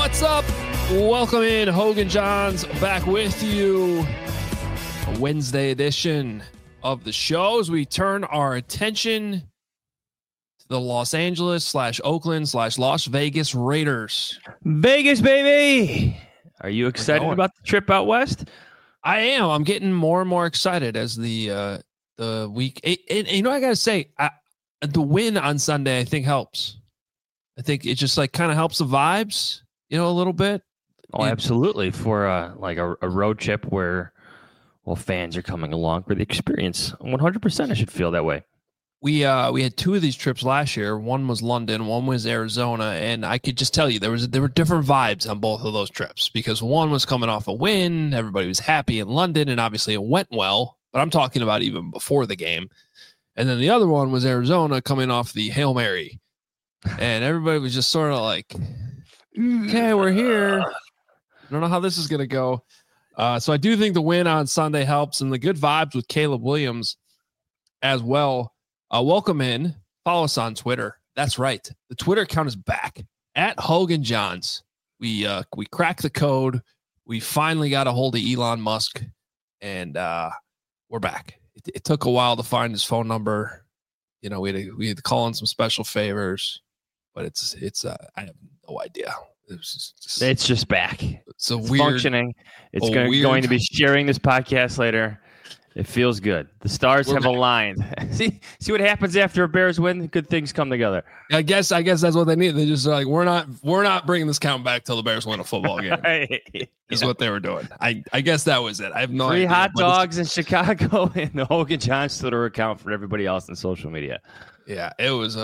What's up? Welcome in. Hogan Johns back with you. A Wednesday edition of the show as we turn our attention to the Los Angeles / Oakland / Las Vegas Raiders. Vegas, baby. Are you excited about the trip out west? I am. I'm getting more and more excited as the week. And you know, I got to say, the win on Sunday, I think helps. I think it just like kind of helps the vibes, you know, a little bit. Oh, absolutely. For like a road trip where, well, fans are coming along for the experience. 100% I should feel that way. We had two of these trips last year. One was London, one was Arizona, and I could just tell you there were different vibes on both of those trips because one was coming off a win, everybody was happy in London, and obviously it went well. But I'm talking about even before the game. And then the other one was Arizona coming off the Hail Mary. And everybody was just sort of like, okay, we're here. I don't know how this is going to go. So I do think the win on Sunday helps, and the good vibes with Caleb Williams as well. Welcome in. Follow us on Twitter. That's right. The Twitter account is back at Hogan Johns. We cracked the code. We finally got a hold of Elon Musk, and we're back. It took a while to find his phone number. You know, we had to call in some special favors, but it's I have no idea. It's just back. It's weird functioning. It's going to be sharing this podcast later. It feels good. The stars have aligned. See what happens after a Bears win? Good things come together. I guess that's what they need. They just like we're not bringing this count back till the Bears win a football game. Right. Is what they were doing. I guess that was it. I have no idea. 3 hot dogs in Chicago and the Hogan Johns Twitter account for everybody else on social media. Yeah, it was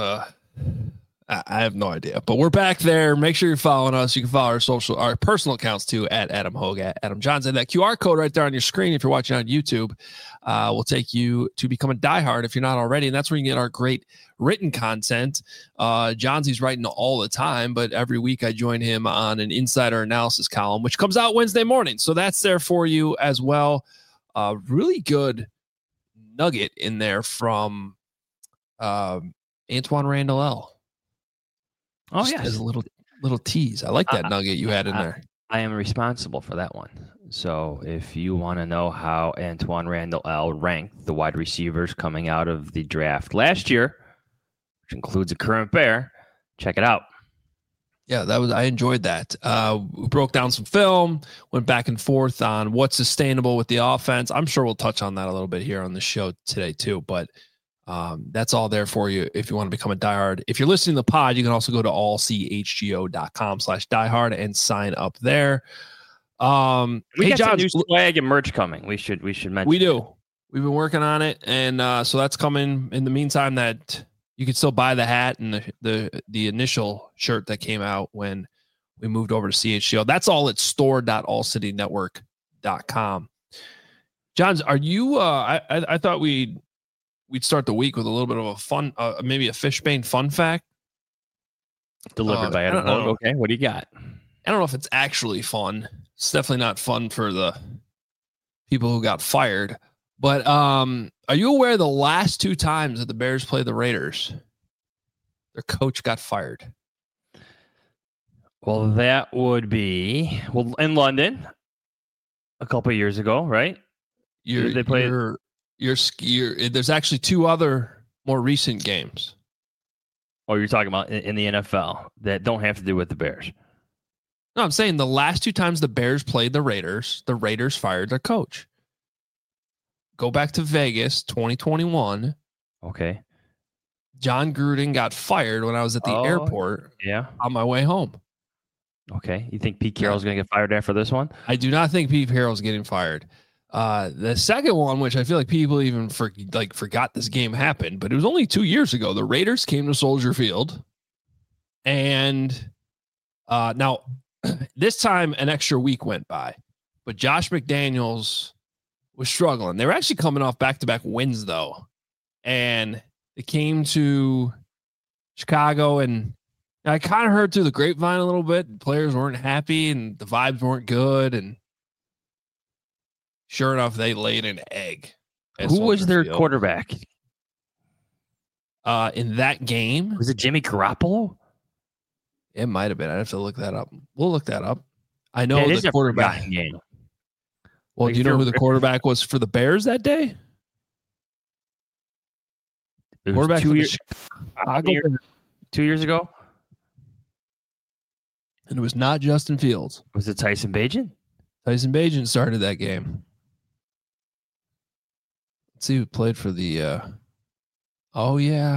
I have no idea, but we're back there. Make sure you're following us. You can follow our personal accounts too at Adam Hogue, at Adam Johns, and that QR code right there on your screen. If you're watching on YouTube, will take you to become a diehard if you're not already, and that's where you can get our great written content. Johnsy's writing all the time, but every week I join him on an insider analysis column, which comes out Wednesday morning. So that's there for you as well. Really good nugget in there from Antoine Randall L. Oh, yeah. As a little tease. I like that nugget you had in there. I am responsible for that one. So if you want to know how Antoine Randall L. ranked the wide receivers coming out of the draft last year, which includes a current Bear, check it out. Yeah, I enjoyed that. We broke down some film, went back and forth on what's sustainable with the offense. I'm sure we'll touch on that a little bit here on the show today too, but that's all there for you if you want to become a diehard. If you're listening to the pod, you can also go to allchgo.com/diehard and sign up there. We got some new swag and merch coming. We should mention. We do. We've been working on it, and so that's coming. In the meantime, that you can still buy the hat and the initial shirt that came out when we moved over to CHGO. That's all at store.allcitynetwork.com. Johns, are you? I thought we'd start the week with a little bit of a fun, maybe a Fishbane fun fact. Delivered by Adam Hogue. Okay, what do you got? I don't know if it's actually fun. It's definitely not fun for the people who got fired. But are you aware the last 2 times that the Bears played the Raiders, their coach got fired? Well, that would be in London a couple of years ago, right? They played. There's actually 2 other more recent games. Oh, you're talking about in the NFL that don't have to do with the Bears. No, I'm saying the last 2 times the Bears played the Raiders fired their coach. Go back to Vegas, 2021. Okay. John Gruden got fired when I was at the airport. Yeah. On my way home. Okay. You think Pete Carroll's going to get fired after this one? I do not think Pete Carroll's getting fired. The second one, which I feel like people even forgot this game happened, but it was only 2 years ago. The Raiders came to Soldier Field, and now this time an extra week went by, but Josh McDaniels was struggling. They were actually coming off back-to-back wins though, and they came to Chicago, and I kind of heard through the grapevine a little bit. Players weren't happy, and the vibes weren't good, and sure enough, they laid an egg. Who was their quarterback? In that game? Was it Jimmy Garoppolo? It might have been. I'd have to look that up. We'll look that up. I know It is the a quarterback. forgotten game. Well, Like, do you if know who you're- the quarterback was for the Bears that day? It was Quarterback for the 2 years, Chicago, 2 years ago. and it was not Justin Fields. Was it Tyson Bagent? Tyson Bagent started that game. Let's see who played for the. Oh yeah,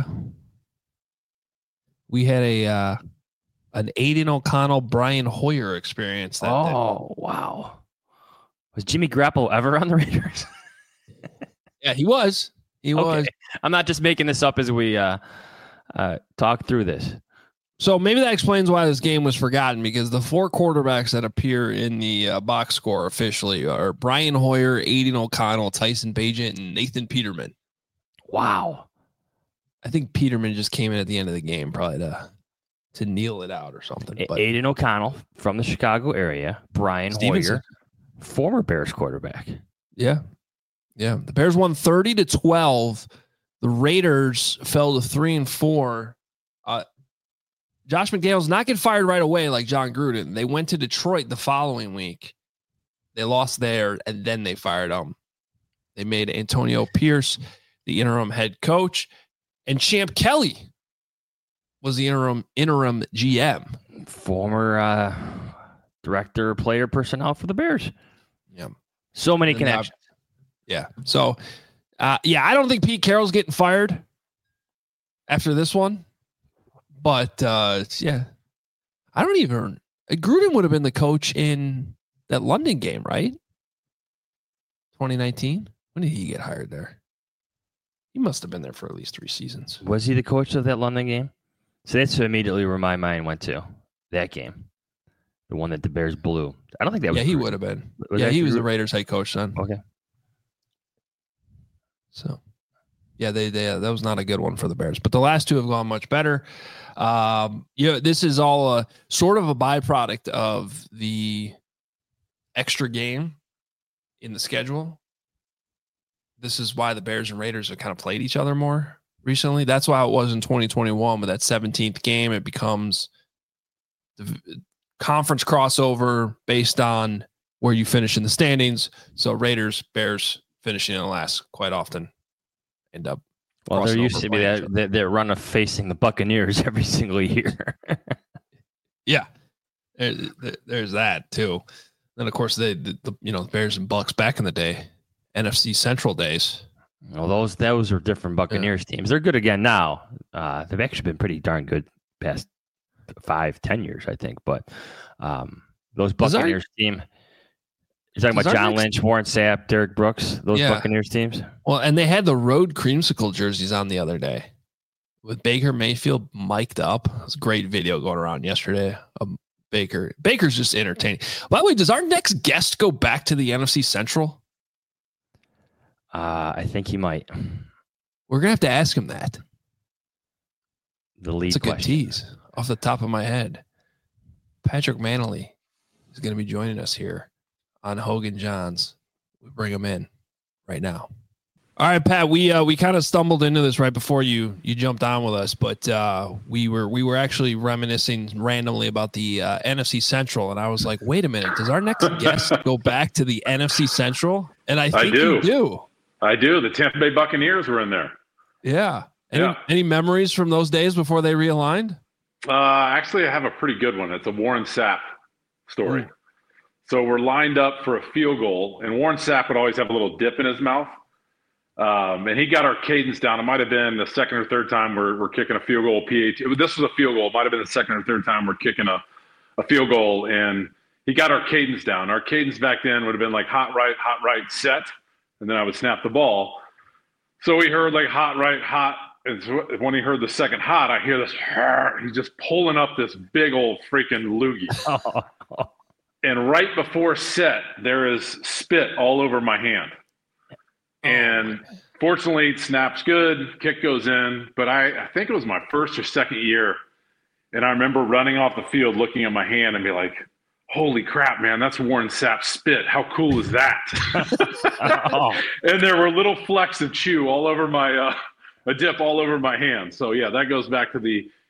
we had an Aiden O'Connell, Brian Hoyer experience that day. Oh, wow. Was Jimmy Garoppolo ever on the Raiders? Yeah, he was. He was. I'm not just making this up as we talk through this. So maybe that explains why this game was forgotten, because the 4 quarterbacks that appear in the box score officially are Brian Hoyer, Aiden O'Connell, Tyson Bagent, and Nathan Peterman. Wow. I think Peterman just came in at the end of the game, probably to kneel it out or something. But Aiden O'Connell from the Chicago area. Brian Stevenson. Hoyer, former Bears quarterback. yeah. The Bears won 30-12. The Raiders fell to 3-4. Josh McDaniels not get fired right away like John Gruden. They went to Detroit the following week. They lost there, and then they fired him. They made Antonio Pierce the interim head coach, and Champ Kelly was the interim GM. Former director, player personnel for the Bears. Yeah. So many And connections. Yeah. So, I don't think Pete Carroll's getting fired after this one. But, yeah. I don't even... Gruden would have been the coach in that London game, right? 2019? When did he get hired there? He must have been there for at least 3 seasons. Was he the coach of that London game? So that's immediately where my mind went to. That game. The one that the Bears blew. I don't think that was... Yeah, he would have been. Was Yeah, that he was Gruden? the Raiders head coach then. Okay. So, yeah, they that was not a good one for the Bears. But the last 2 have gone much better. This is all a sort of a byproduct of the extra game in the schedule. This is why the Bears and Raiders have kind of played each other more recently. That's why it was in 2021 with that 17th game. It becomes the conference crossover based on where you finish in the standings. So Raiders, Bears finishing in last quite often end up. Well, there crossing used over to be playing each that run of facing the Buccaneers every single year. Yeah, there's that too. Then of course the Bears and Bucks back in the day, NFC Central days. Well, those are different Buccaneers teams. They're good again now. They've actually been pretty darn good past 5-10 years, I think. But those Buccaneers team. You're talking about John Lynch, Warren Sapp, Derek Brooks, those Buccaneers teams? Well, and they had the road creamsicle jerseys on the other day with Baker Mayfield mic'd up. It was a great video going around yesterday of Baker. Baker's just entertaining. By the way, does our next guest go back to the NFC Central? I think he might. We're going to have to ask him that. The lead It's a good question. tease off the top of my head. Patrick Manley is going to be joining us here on Hogan Johns. We bring him in right now. All right, Pat, we kind of stumbled into this right before you jumped on with us, but we were actually reminiscing randomly about the NFC Central, and I was like, wait a minute, does our next guest go back to the NFC Central? And I think you do. I do. The Tampa Bay Buccaneers were in there. Yeah. Any memories from those days before they realigned? Actually, I have a pretty good one. It's a Warren Sapp story. Ooh. So we're lined up for a field goal, and Warren Sapp would always have a little dip in his mouth. And he got our cadence down. It might have been the second or third time we're kicking a field goal. This was a field goal. It might have been the second or third time we're kicking a field goal, and he got our cadence down. Our cadence back then would have been like hot right, set, and then I would snap the ball. So we heard like hot right, hot. And so when he heard the second hot, I hear this. He's just pulling up this big old freaking loogie. And right before set, there is spit all over my hand. And fortunately, snap's good, kick goes in. But I think it was my first or second year. And I remember running off the field, looking at my hand and be like, holy crap, man, that's Warren Sapp's spit. How cool is that? And there were little flecks of chew all over my a dip all over my hand. So, yeah, that goes back to the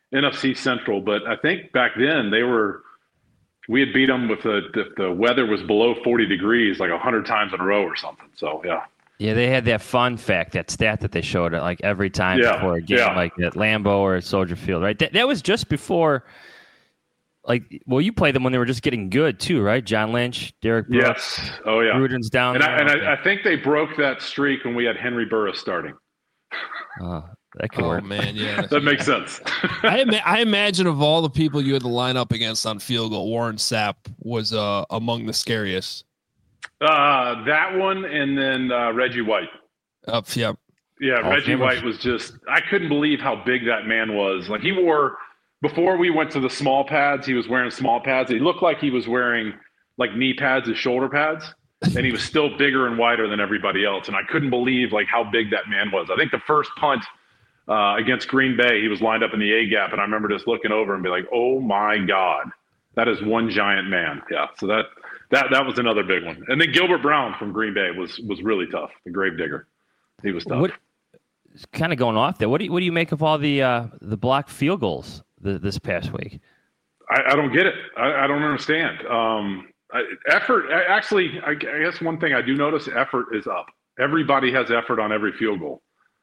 NFC Central. But I think back then we had beat them with the weather was below 40 degrees like 100 times in a row or something. So, yeah. Yeah, they had that fun fact, that stat that they showed it like every time before a game, like at Lambeau or at Soldier Field, right? That was just before, you played them when they were just getting good too, right? John Lynch, Derek Brooks. Yes. Oh, yeah. Gruden's down there. And I think they broke that streak when we had Henry Burris starting. That could work. Oh, man, yeah. That makes sense. I imagine of all the people you had to line up against on field goal, Warren Sapp was among the scariest. That one, and then Reggie White. Yep. Yeah, Reggie White was just – I couldn't believe how big that man was. Like, he wore – before we went to the small pads, he was wearing small pads. He looked like he was wearing, like, knee pads as shoulder pads, and he was still bigger and wider than everybody else. And I couldn't believe, like, how big that man was. I think the first punt against Green Bay, he was lined up in the A-gap, and I remember just looking over and be like, oh, my God, that is one giant man. Yeah, so that was another big one. And then Gilbert Brown from Green Bay was really tough. The gravedigger, he was tough. Kind of going off there. What do you make of all the blocked field goals this past week? I don't get it. I don't understand. Effort. Actually, I guess one thing I do notice: effort is up. Everybody has effort on every field goal.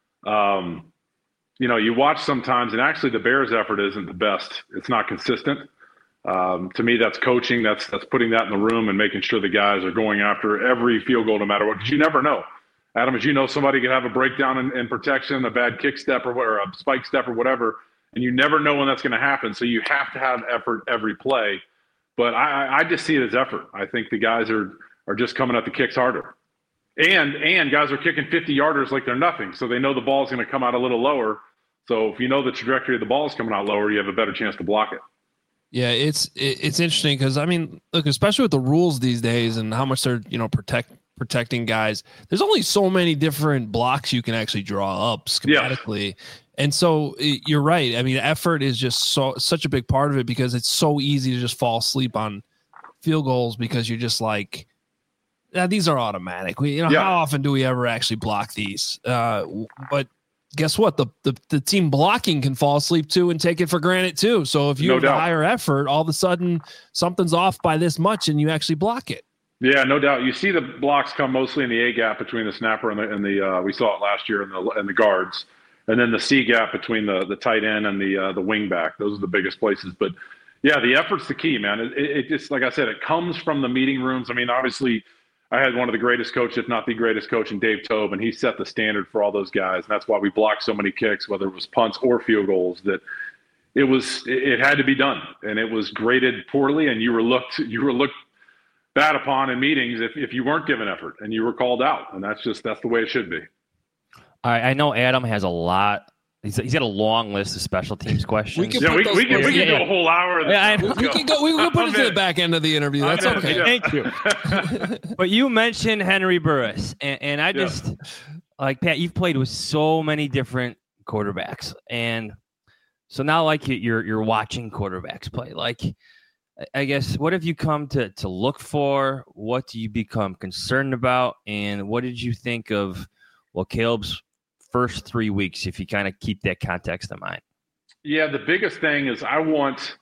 You watch sometimes, and actually, the Bears' effort isn't the best. It's not consistent. To me, that's coaching. That's putting that in the room and making sure the guys are going after every field goal no matter what. Because you never know. Adam, as you know, somebody could have a breakdown in protection, a bad kick step or a spike step or whatever, and you never know when that's going to happen. So you have to have effort every play. But I just see it as effort. I think the guys are just coming at the kicks harder. And guys are kicking 50-yarders like they're nothing. So they know the ball's going to come out a little lower. So if you know the trajectory of the ball is coming out lower, you have a better chance to block it. Yeah, it's interesting because, I mean, look, especially with the rules these days and how much they're, protecting guys, there's only so many different blocks you can actually draw up schematically. Yeah. And so you're right. I mean, effort is just such a big part of it because it's so easy to just fall asleep on field goals because you're just like, these are automatic. How often do we ever actually block these? But guess what? The team blocking can fall asleep too and take it for granted too. So if you have a higher effort, all of a sudden something's off by this much and you actually block it. Yeah, no doubt. You see the blocks come mostly in the A gap between the snapper and the we saw it last year and the guards, and then the C gap between the tight end and the wing back. Those are the biggest places. But yeah, the effort's the key, man. It just, like I said, it comes from the meeting rooms. I mean, obviously, I had one of the greatest coaches, if not the greatest coach, in Dave Tobe, and he set the standard for all those guys. And that's why we blocked so many kicks, whether it was punts or field goals. That it had to be done, and it was graded poorly, and you were looked bad upon in meetings if you weren't given effort and you were called out. And that's the way it should be. I know Adam has a lot. He's got a long list of special teams questions. We can do a whole hour. We can put it to the back end of the the interview. That's okay. Thank you. But you mentioned Henry Burris, and I just like, Pat, you've played with so many different quarterbacks, and so now like you're watching quarterbacks play. Like, I guess, what have you come to look for? What do you become concerned about? And what did you think of, Caleb's first 3 weeks, if you kind of keep that context in mind? Yeah, the biggest thing is I want,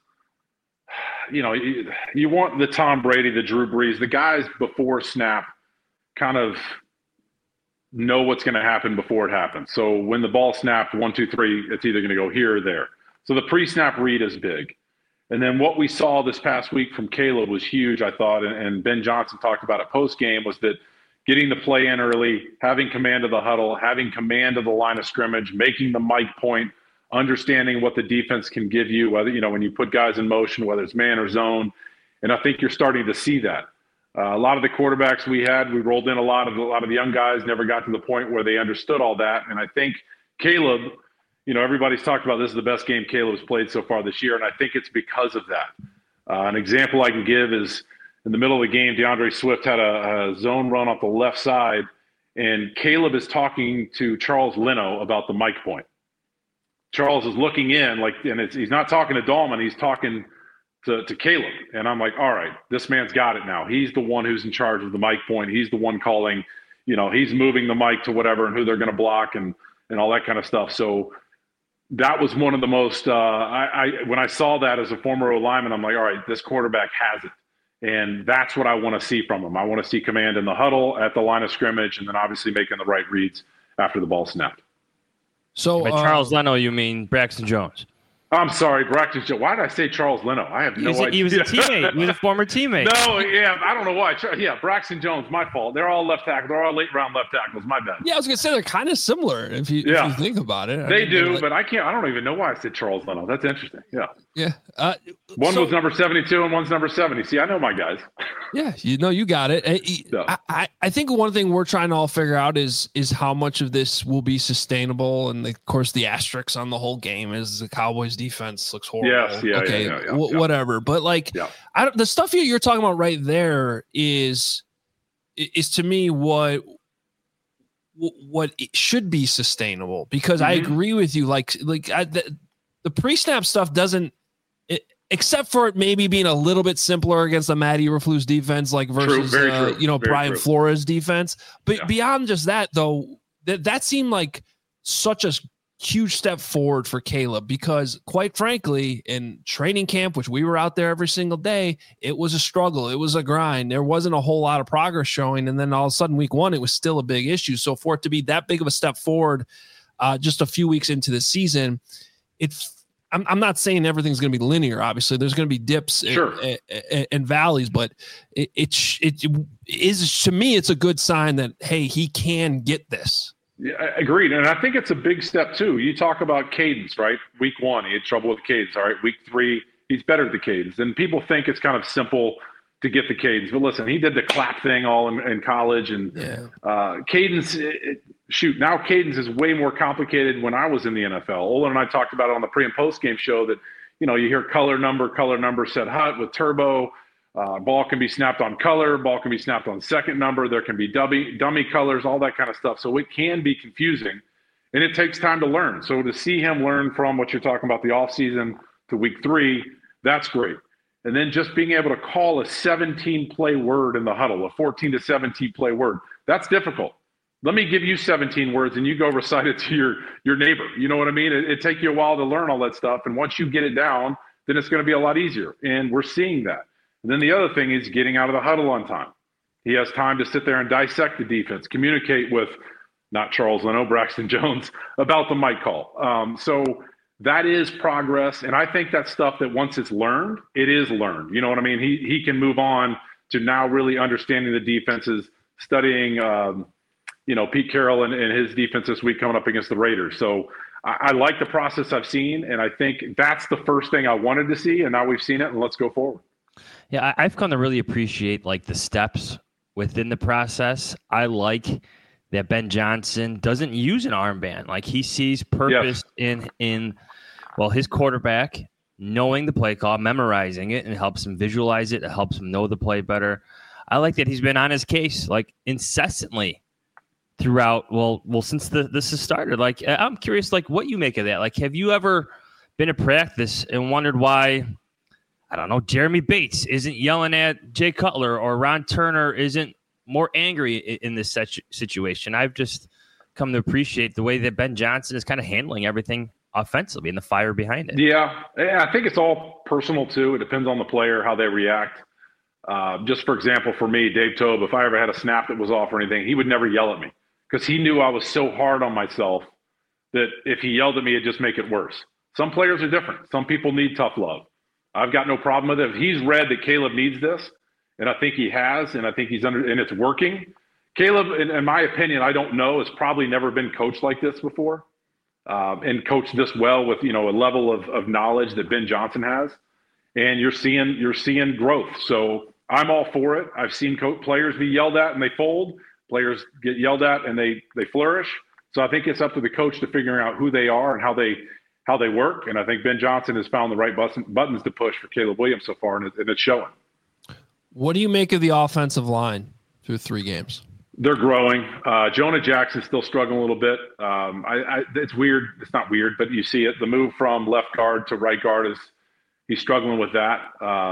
you want the Tom Brady, the Drew Brees, the guys before snap kind of know what's going to happen before it happens. So when the ball snapped 1, 2, 3, it's either going to go here or there. So the pre-snap read is big. And then what we saw this past week from Caleb was huge, I thought, and Ben Johnson talked about it post-game, was that getting the play in early, having command of the huddle, having command of the line of scrimmage, making the mic point, understanding what the defense can give you, whether, when you put guys in motion, whether it's man or zone. And I think you're starting to see that. A lot of the quarterbacks we rolled in a lot of the young guys never got to the point where they understood all that. And I think Caleb, everybody's talked about this is the best game Caleb's played so far this year, and I think it's because of that. An example I can give is in the middle of the game, DeAndre Swift had a zone run off the left side, and Caleb is talking to Charles Leno about the mic point. Charles is looking in, he's not talking to Dahlman, he's talking to Caleb. And I'm like, all right, this man's got it now. He's the one who's in charge of the mic point. He's the one calling, he's moving the mic to whatever and who they're going to block and all that kind of stuff. So that was one of the most. When I saw that as a former O lineman, I'm like, all right, this quarterback has it. And that's what I want to see from him. I want to see command in the huddle, at the line of scrimmage, and then obviously making the right reads after the ball snapped. So By Charles Leno, you mean Braxton Jones? I'm sorry, Braxton Jones. Why did I say Charles Leno? I have no idea. He was a teammate. He was a former teammate. No, yeah, I don't know why. Yeah, Braxton Jones, my fault. They're all left tackles. They're all late round left tackles. My bad. Yeah, I was gonna say they're kind of similar if you think about it. They do, but I can't. I don't even know why I said Charles Leno. That's interesting. Yeah. Yeah. One was number 72 and one's number 70. See, I know my guys. Yeah, you got it. I think one thing we're trying to all figure out is how much of this will be sustainable, and of course the asterisk on the whole game is the Cowboys defense looks horrible. Yes, yeah, okay, yeah, whatever. But like, the stuff you're talking about right there is to me what it should be sustainable, because I agree with you. The pre-snap stuff doesn't. Except for it maybe being a little bit simpler against the Matt Eberflus defense, like versus Brian Flores defense. But beyond just that, though, that seemed like such a huge step forward for Caleb, because quite frankly, in training camp, which we were out there every single day, it was a struggle. It was a grind. There wasn't a whole lot of progress showing. And then all of a sudden week 1, it was still a big issue. So for it to be that big of a step forward just a few weeks into the season, I'm not saying everything's going to be linear. Obviously, there's going to be dips and valleys, but it is, to me, it's a good sign that, hey, he can get this. Yeah, agreed. And I think it's a big step too. You talk about cadence, right? Week 1, he had trouble with cadence. All right, week 3, he's better at the cadence. And people think it's kind of simple to get the cadence, but listen, he did the clap thing all in college, and cadence. Now cadence is way more complicated. When I was in the NFL, Olin and I talked about it on the pre and post game show that, you hear color number set hut with turbo. Ball can be snapped on color. Ball can be snapped on second number. There can be dummy colors, all that kind of stuff. So it can be confusing, and it takes time to learn. So to see him learn from what you're talking about, the offseason to week 3, that's great. And then just being able to call a 17-play word in the huddle, a 14 to 17 play word, that's difficult. Let me give you 17 words and you go recite it to your neighbor. You know what I mean? It takes you a while to learn all that stuff. And once you get it down, then it's going to be a lot easier. And we're seeing that. And then the other thing is getting out of the huddle on time. He has time to sit there and dissect the defense, communicate with, not Charles Leno, Braxton Jones, about the mic call. So that is progress. And I think that's stuff that once it's learned, it is learned. You know what I mean? He can move on to now really understanding the defenses, studying, Pete Carroll and his defense this week coming up against the Raiders. So I like the process I've seen, and I think that's the first thing I wanted to see, and now we've seen it, and let's go forward. Yeah, I've come to really appreciate the steps within the process. I like that Ben Johnson doesn't use an armband. He sees purpose in his quarterback knowing the play call, memorizing it, and helps him visualize it. It helps him know the play better. I like that he's been on his case incessantly throughout. Since this has started. I'm curious, what you make of that. Have you ever been at practice and wondered why, I don't know, Jeremy Bates isn't yelling at Jay Cutler or Ron Turner isn't more angry in this situation? I've just come to appreciate the way that Ben Johnson is kind of handling everything offensively and the fire behind it. Yeah, I think it's all personal too. It depends on the player, how they react. Just for example, for me, Dave Tobe, if I ever had a snap that was off or anything, he would never yell at me because he knew I was so hard on myself that if he yelled at me, it'd just make it worse. Some players are different. Some people need tough love. I've got no problem with it. If he's read that Caleb needs this, and I think he has, and I think he's and it's working. Caleb, in my opinion, I don't know, has probably never been coached like this before, and coached this well with a level of knowledge that Ben Johnson has, and you're seeing growth. So I'm all for it. I've seen players be yelled at and they fold. Players get yelled at and they flourish. So I think it's up to the coach to figuring out who they are and how they work. And I think Ben Johnson has found the right buttons to push for Caleb Williams so far, and it's showing. What do you make of the offensive line through 3 games? They're growing. Jonah Jackson's still struggling a little bit. It's weird. It's not weird, but you see it. The move from left guard to right guard he's struggling with that.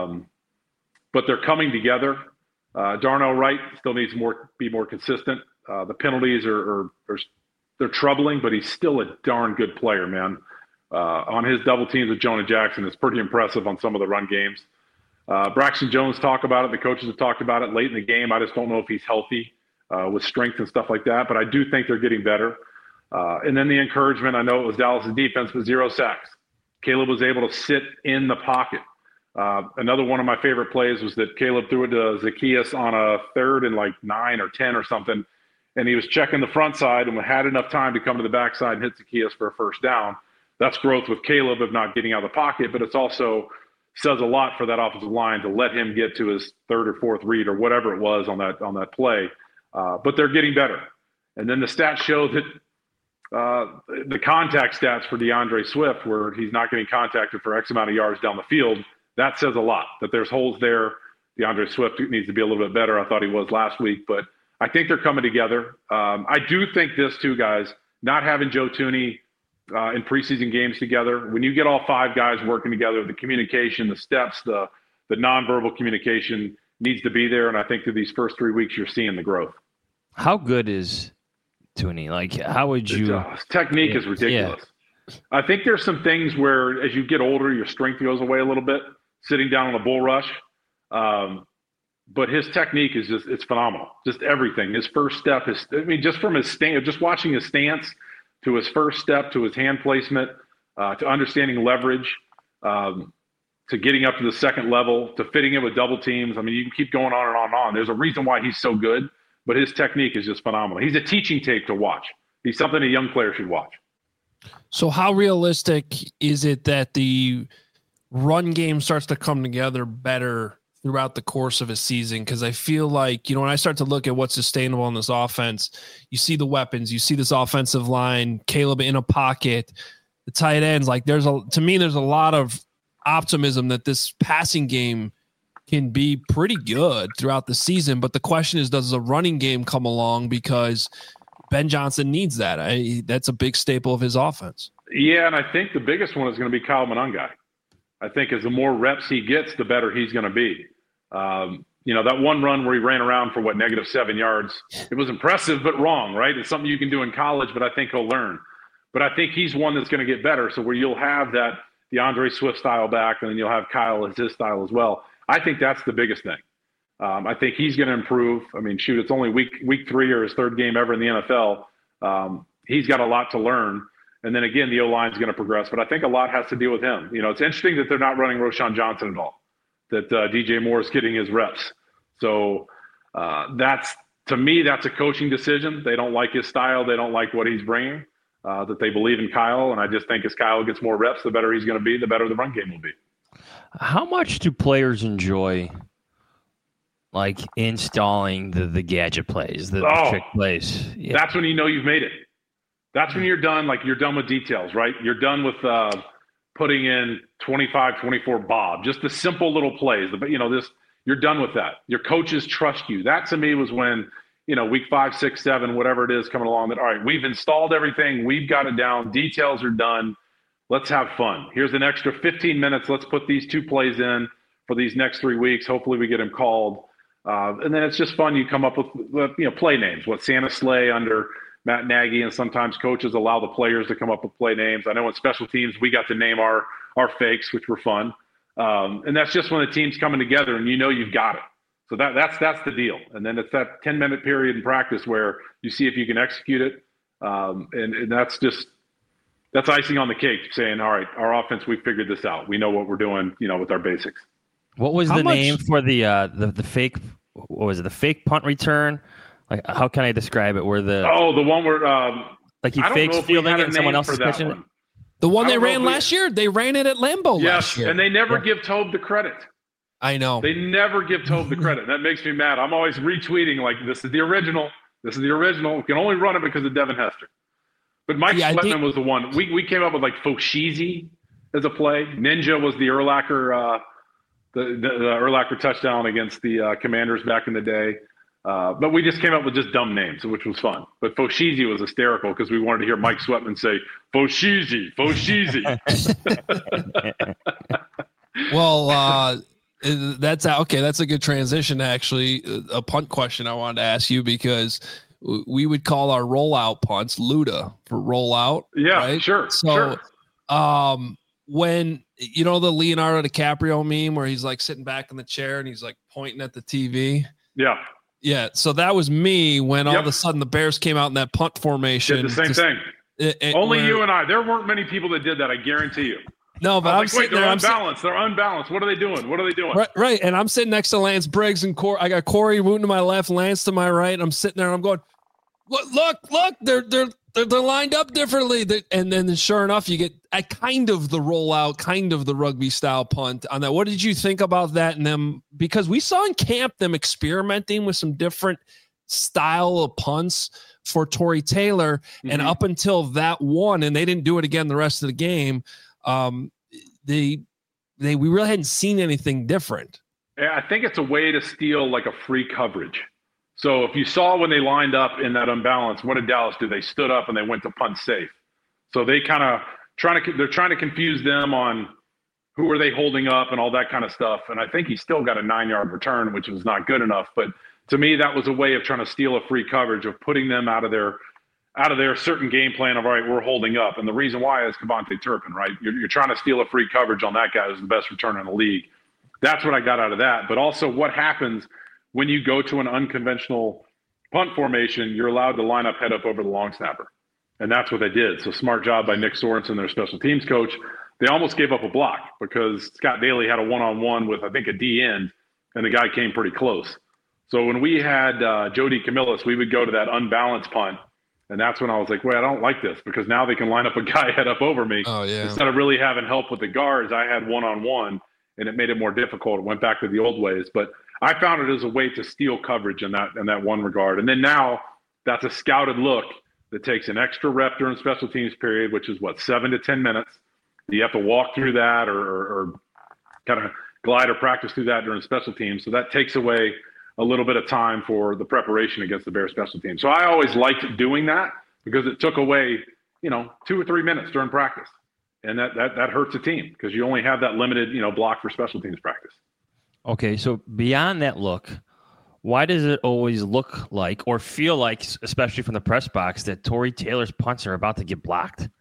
But they're coming together. Darnell Wright still needs be more consistent. The penalties they're troubling, but he's still a darn good player, man. on his double teams with Jonah Jackson is pretty impressive on some of the run games. Braxton Jones talked about it. The coaches have talked about it late in the game. I just don't know if he's healthy with strength and stuff like that, but I do think they're getting better. And then the encouragement, I know it was Dallas' defense, but 0 sacks. Caleb was able to sit in the pocket. Another one of my favorite plays was that Caleb threw it to Zacchaeus on a 3rd and like 9 or 10 or something, and he was checking the front side and had enough time to come to the backside and hit Zacchaeus for a first down. That's growth with Caleb of not getting out of the pocket, but it's also says a lot for that offensive line to let him get to his 3rd or 4th read or whatever it was on that play. But they're getting better. And then the stats show that the contact stats for DeAndre Swift, where he's not getting contacted for X amount of yards down the field, that says a lot, that there's holes there. DeAndre Swift needs to be a little bit better. I thought he was last week, but I think they're coming together. I do think this too, guys, not having Joe Thuney in preseason games together, when you get all 5 guys working together, the communication, the steps, the nonverbal communication needs to be there. And I think through these first 3 weeks, you're seeing the growth. How good is Thuney? Like, how would you? His technique is ridiculous. Yeah. I think there's some things where as you get older, your strength goes away a little bit, sitting down on a bull rush. But his technique is it's phenomenal. Just everything. His first step is, just from his stance, just watching his stance to his first step, to his hand placement, to understanding leverage, to getting up to the second level, to fitting in with double teams. I mean, you can keep going on and on and on. There's a reason why he's so good, but his technique is just phenomenal. He's a teaching tape to watch. He's something a young player should watch. So how realistic is it that the run game starts to come together better throughout the course of a season? Because I feel like, when I start to look at what's sustainable in this offense, you see the weapons, you see this offensive line, Caleb in a pocket, the tight ends. Like there's a lot of optimism that this passing game can be pretty good throughout the season. But the question is, does the running game come along? Because Ben Johnson needs that. That's a big staple of his offense. Yeah, and I think the biggest one is going to be Kyle Monangai. I think as the more reps he gets, the better he's going to be. That one run where he ran around for -7 yards, it was impressive, but wrong, right? It's something you can do in college, but I think he'll learn. But I think he's one that's going to get better. So where you'll have that DeAndre Swift style back, and then you'll have Kyle as his style as well. I think that's the biggest thing. I think he's going to improve. I mean, shoot, it's only week 3 or his 3rd game ever in the NFL. He's got a lot to learn. And then again, the O-line is going to progress, but I think a lot has to do with him. It's interesting that they're not running Roschon Johnson at all, that DJ Moore is getting his reps. So to me, that's a coaching decision. They don't like his style. They don't like what he's bringing, that they believe in Kyle. And I just think as Kyle gets more reps, the better he's going to be, the better the run game will be. How much do players enjoy like installing the gadget plays, the trick plays? Yeah. That's when you know you've made it. That's when you're done, like you're done with details, right? You're done with putting in 25, 24 bob, just the simple little plays. You're done with that. Your coaches trust you. That to me was when, week 5, 6, 7, whatever it is coming along, that, all right, we've installed everything. We've got it down. Details are done. Let's have fun. Here's an extra 15 minutes. Let's put these 2 plays in for these next 3 weeks. Hopefully we get them called. And then it's just fun. You come up with, play names, what Santa Slay under Matt Nagy, and sometimes coaches allow the players to come up with play names. I know in special teams, we got to name our fakes, which were fun. And that's just when the team's coming together and you've got it. So that's the deal. And then it's that 10-minute period in practice where you see if you can execute it. And that's icing on the cake, saying, all right, our offense, we figured this out. We know what we're doing, with our basics. What was the name for the fake? What was it? The fake punt return? Like, how can I describe it? Where the one where like he fakes fielding it and someone else is catching it. The one they ran last year. They ran it at Lambeau last year. Yes, and they never give Tobe the credit. I know. They never give Tobe the credit. That makes me mad. I'm always retweeting like, this is the original. This is the original. We can only run it because of Devin Hester. But Mike Sweatman was the one. We came up with like Foshizi as a play. Ninja was the Urlacher the Urlacher touchdown against the Commanders back in the day. But we just came up with just dumb names, which was fun. But Foshizi was hysterical because we wanted to hear Mike Sweatman say, Foshizi. Well, that's okay. That's a good transition, actually. A punt question I wanted to ask you, because we would call our rollout punts Luda for rollout. Yeah, right? sure. So When you know the Leonardo DiCaprio meme where he's like sitting back in the chair and he's like pointing at the TV. Yeah. So that was me when all of a sudden the Bears came out in that punt formation. Did the same thing. Only you and I. There weren't many people that did that. I guarantee you. No, but I'm like, wait, they're unbalanced. They're unbalanced. What are they doing? What are they doing? Right. And I'm sitting next to Lance Briggs and I got Corey Wooten to my left, Lance to my right. I'm sitting there and I'm going, look, they're lined up differently. And then sure enough, you get kind of the rollout, kind of the rugby style punt on that. What did you think about that? And them, because we saw in camp them experimenting with some different style of punts for Tory Taylor. Mm-hmm. And up until that one, and they didn't do it again the rest of the game. We really hadn't seen anything different. Yeah, I think it's a way to steal like a free coverage. So if you saw when they lined up in that unbalance, what did Dallas do? They stood up and they went to punt safe. So they kind of they're trying to confuse them on who are they holding up and all that kind of stuff. And I think he still got a 9-yard return, which was not good enough. But to me, that was a way of trying to steal a free coverage, of putting them out of their certain game plan of, all right, we're holding up. And the reason why is KaVontae Turpin, right? You're trying to steal a free coverage on that guy who's the best returner in the league. That's what I got out of that. But also what happens when you go to an unconventional punt formation, you're allowed to line up head up over the long snapper. And that's what they did. So smart job by Nick Sorensen, their special teams coach. They almost gave up a block because Scott Daly had a one-on-one with, I think, a D end, and the guy came pretty close. So when we had Jody Camillus, we would go to that unbalanced punt. And that's when I was like, wait, I don't like this, because now they can line up a guy head up over me. Oh, yeah. Instead of really having help with the guards, I had one-on-one, and it made it more difficult. It went back to the old ways. But I found it as a way to steal coverage in that one regard. And then now that's a scouted look that takes an extra rep during special teams period, which is 7 to 10 minutes. You have to walk through that or kind of glide or practice through that during special teams. So that takes away a little bit of time for the preparation against the Bears special team. So I always liked doing that because it took away, 2 or 3 minutes during practice. And that hurts a team because you only have that limited, block for special teams practice. Okay, so beyond that look, why does it always look like or feel like, especially from the press box, that Tory Taylor's punts are about to get blocked?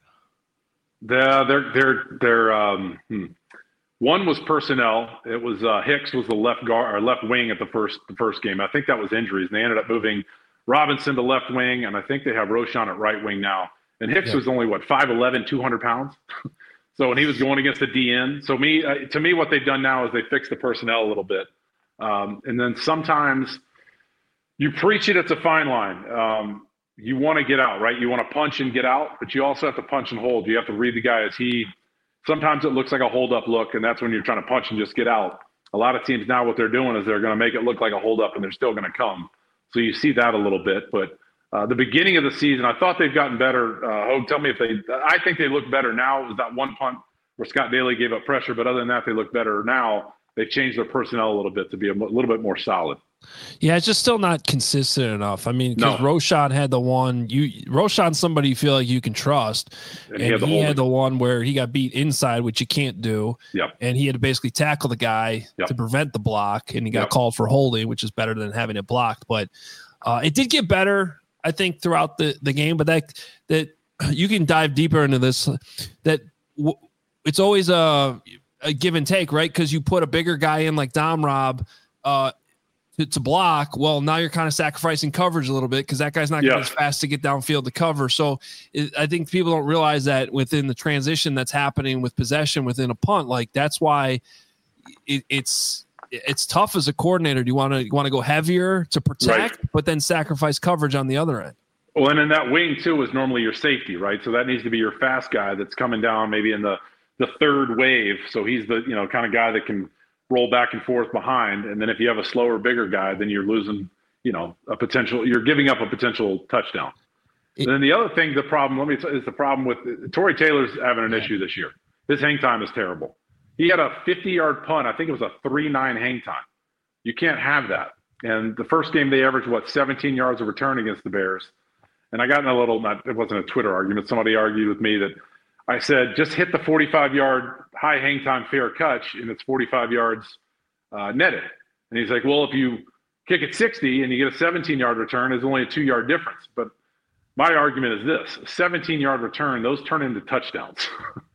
One was personnel. It was Hicks was the left guard or left wing at the first game. I think that was injuries, and they ended up moving Robinson to left wing, and I think they have Roschon at right wing now. And Hicks was only 5'11", 200 pounds. So when he was going against the DN, to me, what they've done now is they fixed the personnel a little bit, and then sometimes you preach it. It's a fine line. You want to get out, right? You want to punch and get out, but you also have to punch and hold. You have to read the guy as he. Sometimes it looks like a hold-up look, and that's when you're trying to punch and just get out. A lot of teams now, what they're doing is they're going to make it look like a hold-up, and they're still going to come. So you see that a little bit. But the beginning of the season, I thought they've gotten better. Hogue, tell me if I think they look better now. It was that one punt where Scott Daly gave up pressure, but other than that, they look better now. They've changed their personnel a little bit to be a little bit more solid. Yeah, it's just still not consistent enough. I mean, because Roschon had the one. Roschon's somebody you feel like you can trust, and he had the one where he got beat inside, which you can't do. Yep. And he had to basically tackle the guy to prevent the block, and he got called for holding, which is better than having it blocked. But it did get better, I think, throughout the game. But that you can dive deeper into this. It's always a give and take, right? Because you put a bigger guy in like Dom Rob to block. Well, now you're kind of sacrificing coverage a little bit because that guy's not going to be as fast to get downfield to cover. So I think people don't realize that within the transition that's happening with possession within a punt, like that's why it's tough as a coordinator. Do you want to go heavier to protect, but then sacrifice coverage on the other end? Well, and then that wing too is normally your safety, right? So that needs to be your fast guy that's coming down maybe in the third wave. So he's the kind of guy that can roll back and forth behind. And then if you have a slower, bigger guy, then you're losing, you're giving up a potential touchdown. And then the other thing, is the problem with Tory Taylor's having an issue this year. His hang time is terrible. He had a 50-yard punt. I think it was a 3.9 hang time. You can't have that. And the first game they averaged 17 yards of return against the Bears. And I got in it wasn't a Twitter argument. Somebody argued with me that I said, just hit the 45-yard high hang time fair catch, and it's 45 yards netted. And he's like, well, if you kick it 60 and you get a 17-yard return, it's only a 2-yard difference. But my argument is this: a 17-yard return, those turn into touchdowns.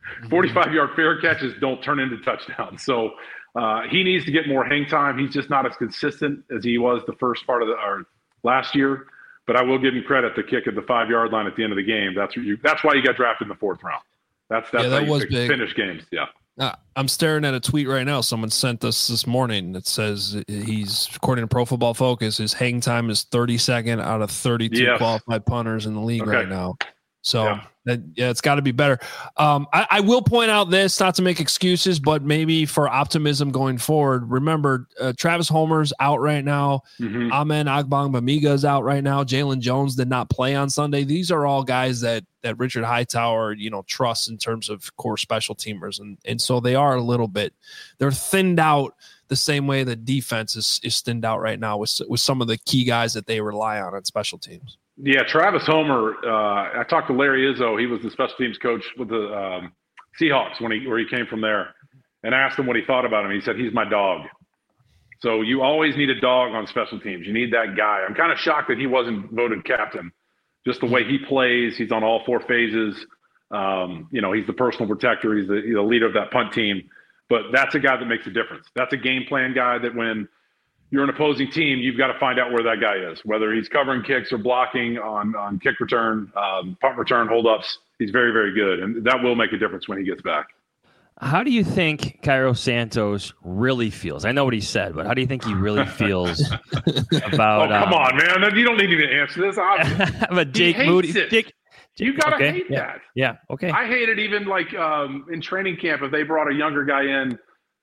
45-yard fair catches don't turn into touchdowns. So he needs to get more hang time. He's just not as consistent as he was the first part of last year. But I will give him credit to kick at the 5-yard line at the end of the game. That's why you got drafted in the 4th round. That's how you finish games. Yeah. I'm staring at a tweet right now. Someone sent us this morning that says he's, according to Pro Football Focus, his hang time is 32nd out of 32 qualified punters in the league right now. So it's got to be better. I will point out this, not to make excuses, but maybe for optimism going forward. Remember, Travis Homer's out right now. Amen Agbangbamiga is out right now. Jalen Jones did not play on Sunday. These are all guys that Richard Hightower, trusts in terms of core special teamers. And so they are a little bit, they're thinned out the same way the defense is thinned out right now with some of the key guys that they rely on special teams. Yeah, Travis Homer. I talked to Larry Izzo. He was the special teams coach with the Seahawks where he came from there, and I asked him what he thought about him. He said he's my dog. So you always need a dog on special teams. You need that guy. I'm kind of shocked that he wasn't voted captain. Just the way he plays, he's on all 4 phases. He's the personal protector. He's the leader of that punt team. But that's a guy that makes a difference. That's a game plan guy that when you're an opposing team, you've got to find out where that guy is, whether he's covering kicks or blocking on kick return, punt return, holdups. He's very, very good, and that will make a difference when he gets back. How do you think Cairo Santos really feels? I know what he said, but how do you think he really feels about? Oh, come on, man! You don't need to answer this. But Jake Moody, you gotta hate that. Yeah, okay. I hate it even like in training camp if they brought a younger guy in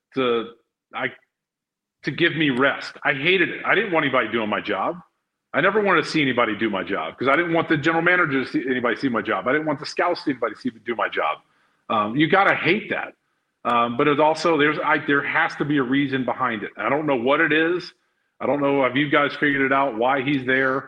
to give me rest. I hated it. I didn't want anybody doing my job. I never wanted to see anybody do my job because I didn't want the general manager to see anybody see my job. I didn't want the scouts to see anybody do my job. You got to hate that. But it's also, there has to be a reason behind it. I don't know what it is. I don't know. Have you guys figured it out why he's there?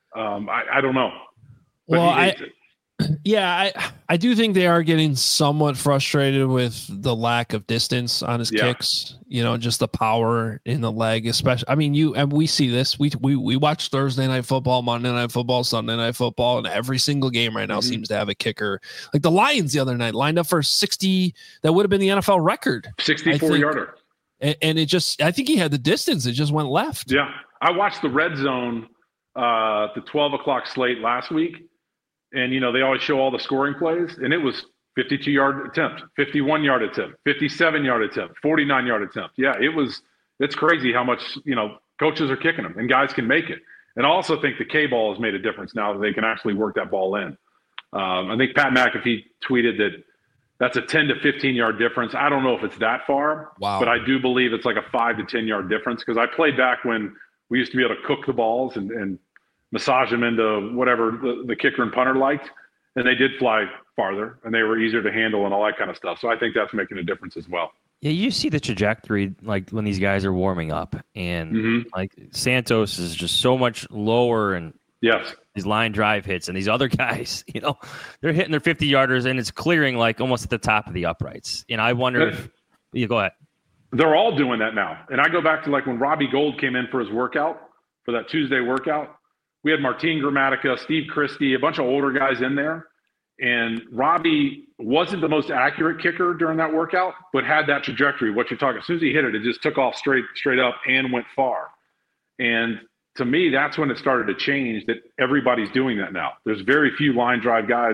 I don't know. But he hates it. Yeah, I do think they are getting somewhat frustrated with the lack of distance on his kicks. Just the power in the leg, especially. I mean, we see this. We watch Thursday night football, Monday night football, Sunday night football, and every single game right now seems to have a kicker. Like the Lions the other night lined up for 60. That would have been the NFL record, 64-yarder. And it just, I think he had the distance. It just went left. Yeah, I watched the Red Zone, the 12 o'clock slate last week. And, they always show all the scoring plays, and it was 52-yard attempt, 51-yard attempt, 57-yard attempt, 49-yard attempt. Yeah, it's crazy how much, coaches are kicking them, and guys can make it. And I also think the K-ball has made a difference now that they can actually work that ball in. I think Pat McAfee tweeted that that's a 10 to 15-yard difference. I don't know if it's that far, but I do believe it's like a 5 to 10-yard difference because I played back when we used to be able to cook the balls and massage them into whatever the kicker and punter liked, and they did fly farther, and they were easier to handle and all that kind of stuff. So I think that's making a difference as well. Yeah, you see the trajectory, like when these guys are warming up, and like Santos is just so much lower, and these line drive hits, and these other guys, they're hitting their 50-yarders, and it's clearing like almost at the top of the uprights. And I wonder if you go ahead. They're all doing that now, and I go back to like when Robbie Gould came in for his workout, for that Tuesday workout. We had Martin Gramatica, Steve Christie, a bunch of older guys in there. And Robbie wasn't the most accurate kicker during that workout, but had that trajectory. What you're talking, as soon as he hit it, it just took off straight up and went far. And to me, that's when it started to change that everybody's doing that now. There's very few line drive guys.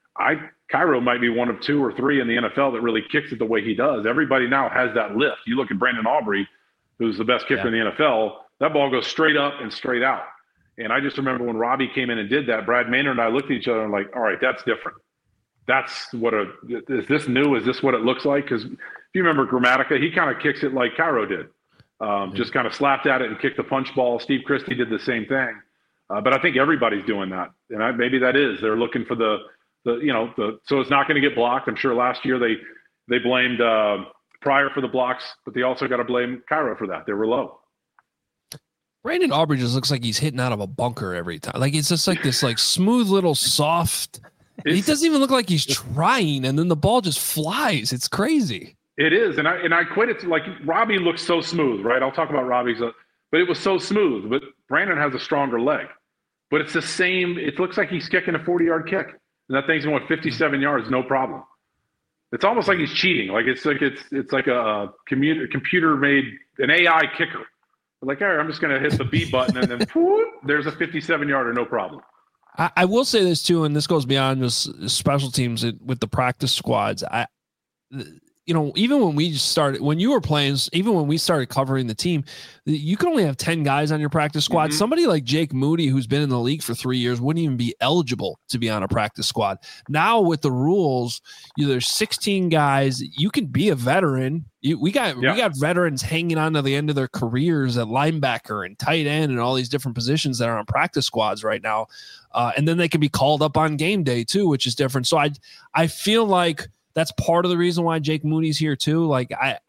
Cairo might be one of 2 or 3 in the NFL that really kicks it the way he does. Everybody now has that lift. You look at Brandon Aubrey, who's the best kicker in the NFL, that ball goes straight up and straight out. And I just remember when Robbie came in and did that, Brad Maynard and I looked at each other and like, all right, that's different. That's is this new? Is this what it looks like? Because if you remember Gramatica, he kind of kicks it like Cairo did. Just kind of slapped at it and kicked the punch ball. Steve Christie did the same thing. But I think everybody's doing that. And maybe that is. They're looking for so it's not going to get blocked. I'm sure last year they blamed Pryor for the blocks, but they also got to blame Cairo for that. They were low. Brandon Aubrey just looks like he's hitting out of a bunker every time. Like it's just like this like smooth little soft. He doesn't even look like he's trying, and then the ball just flies. It's crazy. It is, and I quit it. Like Robbie looks so smooth, right? I'll talk about Robbie's, but it was so smooth. But Brandon has a stronger leg, but it's the same. It looks like he's kicking a 40-yard kick, and that thing's going 57 yards, no problem. It's almost like he's cheating. It's like a computer made an AI kicker. Like, all right, I'm just going to hit the B button and then whoop, there's a 57-yarder, no problem. I will say this too, and this goes beyond just special teams with the practice squads. Even when you were playing, even when we started covering the team, you could only have 10 guys on your practice squad. Mm-hmm. Somebody like Jake Moody, who's been in the league for 3 years, wouldn't even be eligible to be on a practice squad. Now with the rules, there's 16 guys. You can be a veteran. We got veterans hanging on to the end of their careers at linebacker and tight end and all these different positions that are on practice squads right now. And then they can be called up on game day too, which is different. So I feel like that's part of the reason why Jake Mooney's here too. Like I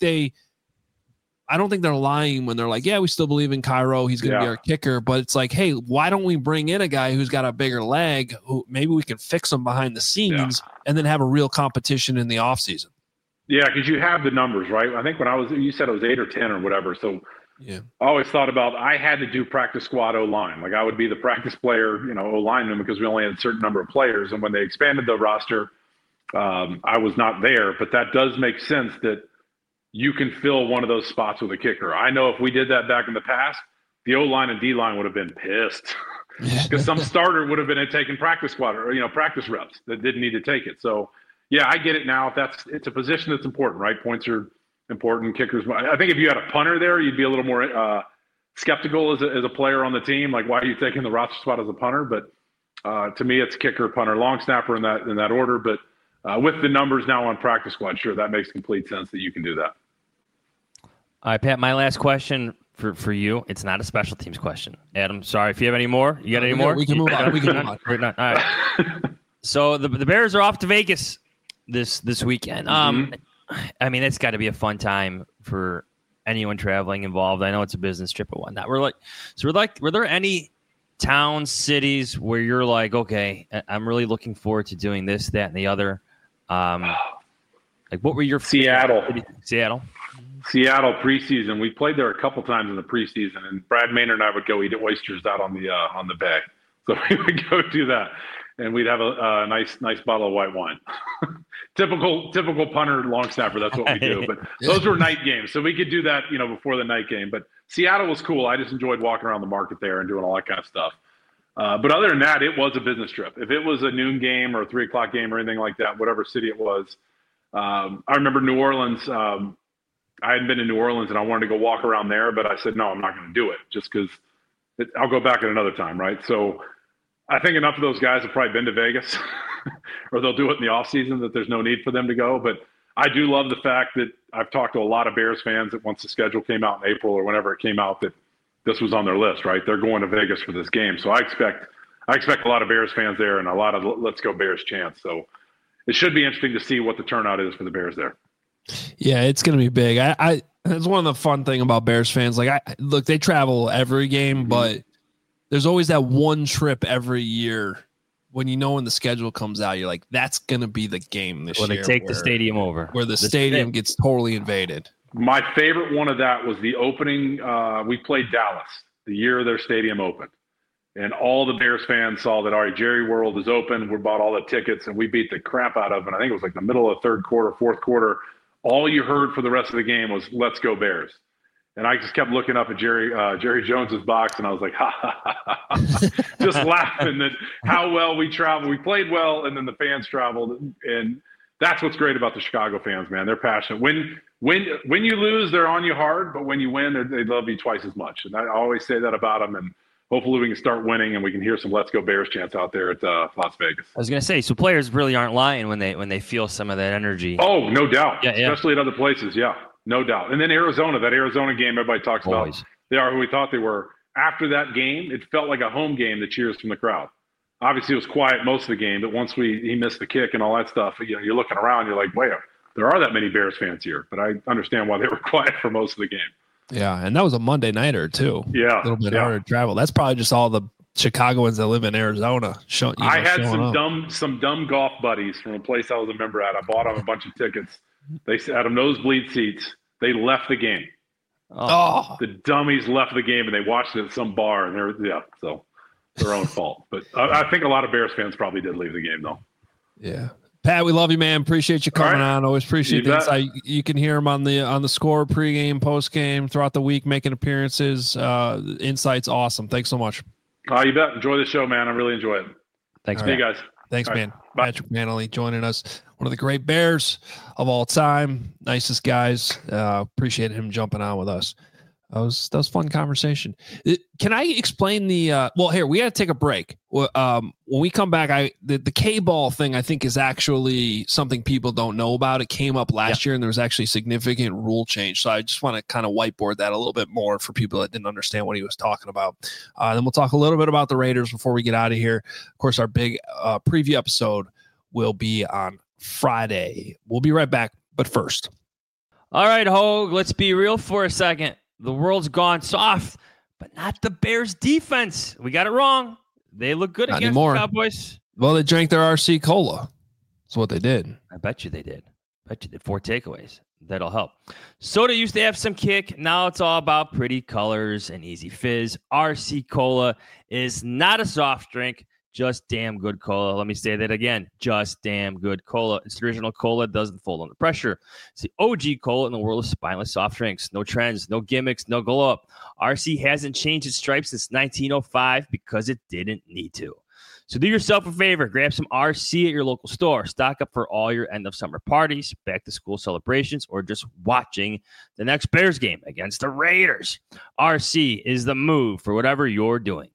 don't think they're lying when they're like, yeah, we still believe in Cairo. He's going to be our kicker. But it's like, hey, why don't we bring in a guy who's got a bigger leg who maybe we can fix him behind the scenes and then have a real competition in the offseason? Yeah, because you have the numbers, right? I think you said it was 8 or 10 or whatever. So I always thought I had to do practice squad O-line. Like I would be the practice player, O-lineman, because we only had a certain number of players. And when they expanded the roster, I was not there, but that does make sense that you can fill one of those spots with a kicker. I know if we did that back in the past, the O-line and D-line would have been pissed because some starter would have been taking practice squad or, practice reps that didn't need to take it. So yeah, I get it now. It's a position that's important, right? Points are important. Kickers. I think if you had a punter there, you'd be a little more skeptical as a player on the team. Like, why are you taking the roster spot as a punter? But to me, it's kicker, punter, long snapper in that order. But with the numbers now on practice squad, sure, that makes complete sense that you can do that. All right, Pat, my last question for you. It's not a special teams question. Adam, sorry if you have any more. You got any more? We can move on. All right. So the Bears are off to Vegas this weekend. I mean, it's got to be a fun time for anyone traveling involved. I know it's a business trip and whatnot. Were there any towns, cities where you're like, okay, I'm really looking forward to doing this, that, and the other? Like, what were your Seattle preseason? We played there a couple times in the preseason, and Brad Maynard and I would go eat oysters out on the bay. So we would go do that, and we'd have a nice bottle of white wine. typical punter, long snapper. That's what we do. But those were night games, so we could do that, before the night game. But Seattle was cool. I just enjoyed walking around the market there and doing all that kind of stuff. But other than that, it was a business trip. If it was a noon game or a 3:00 game or anything like that, whatever city it was, I remember New Orleans. I hadn't been to New Orleans and I wanted to go walk around there, but I said, no, I'm not going to do it just because I'll go back at another time, right? So I think enough of those guys have probably been to Vegas or they'll do it in the off season that there's no need for them to go. But I do love the fact that I've talked to a lot of Bears fans that once the schedule came out in April or whenever it came out that this was on their list, right? They're going to Vegas for this game. So I expect a lot of Bears fans there and a lot of Let's Go Bears chants. So it should be interesting to see what the turnout is for the Bears there. Yeah, it's going to be big. That's one of the fun thing about Bears fans. Like, look, they travel every game, but there's always that one trip every year when when the schedule comes out, you're like, that's going to be the game this year. They take the stadium over. Where the stadium gets totally invaded. My favorite one of that was the opening. We played Dallas the year their stadium opened. And all the Bears fans saw that, all right, Jerry World is open. We bought all the tickets, and we beat the crap out of them. I think it was like the middle of third quarter, fourth quarter. All you heard for the rest of the game was "Let's go Bears," and I just kept looking up at Jerry Jones's box, and I was like, "Ha ha ha ha!" Just laughing at how well we traveled. We played well, and then the fans traveled, and that's what's great about the Chicago fans, man. They're passionate. When you lose, they're on you hard, but when you win, they love you twice as much. And I always say that about them. And hopefully we can start winning and we can hear some "Let's Go Bears" chants out there at Las Vegas. I was going to say, so players really aren't lying when they feel some of that energy. Oh, no doubt. Yeah. Especially at other places. Yeah, no doubt. And then that Arizona game everybody talks about. They are who we thought they were. After that game, it felt like a home game, the cheers from the crowd. Obviously, it was quiet most of the game, but once he missed the kick and all that stuff, you're looking around, you're like, wait, there are that many Bears fans here. But I understand why they were quiet for most of the game. Yeah, and that was a Monday nighter too. Yeah, a little bit harder to travel. That's probably just all the Chicagoans that live in Arizona. I had some dumb golf buddies from a place I was a member at. I bought them a bunch of tickets. They had them nosebleed seats. They left the game. Oh, the dummies left the game and they watched it at some bar. And so their own fault. But I think a lot of Bears fans probably did leave the game though. Yeah. Pat, we love you, man. Appreciate you coming on. Always appreciate the insight. You can hear him on the score, pregame, postgame, throughout the week, making appearances. Insight's awesome. Thanks so much. You bet. Enjoy the show, man. I really enjoy it. Thanks, See you guys. Thanks, man. Right. Patrick Mannelly joining us. One of the great Bears of all time. Nicest guys. Appreciate him jumping on with us. That was a fun conversation. Can I explain the well, here, we got to take a break. When we come back, the K-ball thing, I think, is actually something people don't know about. It came up last year, and there was actually significant rule change. So I just want to kind of whiteboard that a little bit more for people that didn't understand what he was talking about. Then we'll talk a little bit about the Raiders before we get out of here. Of course, our big preview episode will be on Friday. We'll be right back, but first. All right, Hogue, let's be real for a second. The world's gone soft, but not the Bears defense. We got it wrong. They look good against the Cowboys. Well, they drank their RC Cola. That's what they did. I bet you they did. 4 takeaways. That'll help. Soda used to have some kick. Now it's all about pretty colors and easy fizz. RC Cola is not a soft drink. Just damn good cola. Let me say that again. Just damn good cola. It's the original cola. Doesn't fold under pressure. It's the OG cola in the world of spineless soft drinks. No trends, no gimmicks, no glow up. RC hasn't changed its stripes since 1905 because it didn't need to. So do yourself a favor. Grab some RC at your local store. Stock up for all your end of summer parties, back to school celebrations, or just watching the next Bears game against the Raiders. RC is the move for whatever you're doing.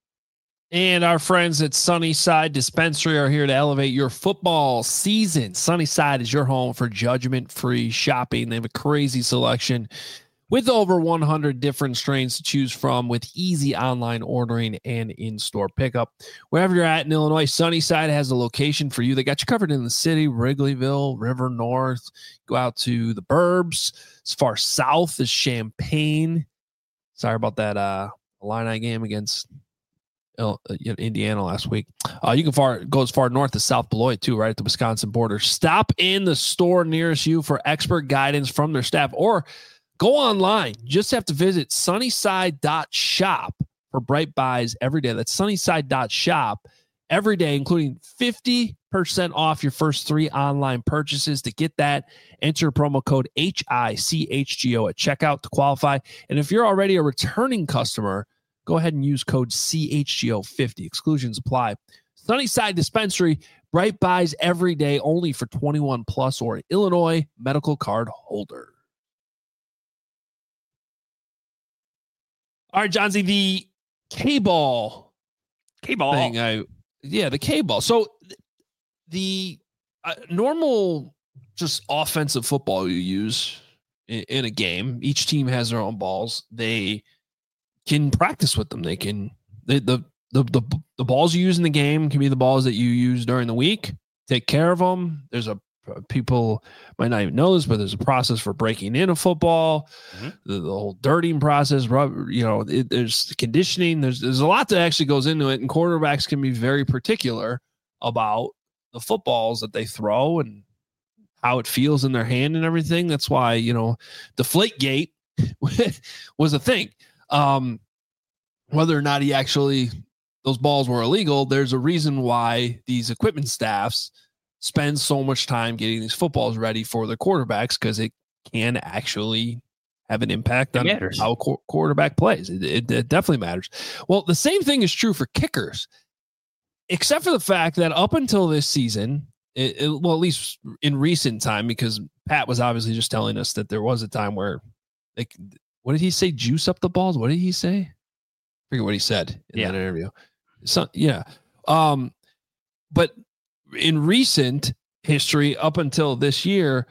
And our friends at Sunnyside Dispensary are here to elevate your football season. Sunnyside is your home for judgment-free shopping. They have a crazy selection with over 100 different strains to choose from, with easy online ordering and in-store pickup. Wherever you're at in Illinois, Sunnyside has a location for you. They got you covered in the city, Wrigleyville, River North. Go out to the burbs. As far south as Champaign. Sorry about that Illini game against Indiana last week. You can go as far north as South Beloit too, right at the Wisconsin border. Stop in the store nearest you for expert guidance from their staff, or go online. You just have to visit sunnyside.shop for bright buys every day. That's sunnyside.shop every day, including 50% off your first 3 online purchases. To get that, enter promo code HICHGO at checkout to qualify. And if you're already a returning customer, go ahead and use code CHGO50. Exclusions apply. Sunnyside Dispensary, bright buys every day, only for 21 plus or Illinois medical card holder. All right, Johnsy, the K-ball thing. The K-ball. So the normal just offensive football you use in a game, each team has their own balls. They can practice with them. They can the balls you use in the game can be the balls that you use during the week. Take care of them. There's people might not even know this, but there's a process for breaking in a football. Mm-hmm. The whole dirtying process. There's conditioning. There's a lot that actually goes into it, and quarterbacks can be very particular about the footballs that they throw and how it feels in their hand and everything. That's why Deflategate was a thing. Whether or not those balls were illegal, there's a reason why these equipment staffs spend so much time getting these footballs ready for their quarterbacks, because it can actually have an impact on how a quarterback plays. It definitely matters. Well, the same thing is true for kickers, except for the fact that up until this season, at least in recent time, because Pat was obviously just telling us that there was a time where what did he say? Juice up the balls? What did he say? I forget what he said in that interview. But in recent history, up until this year,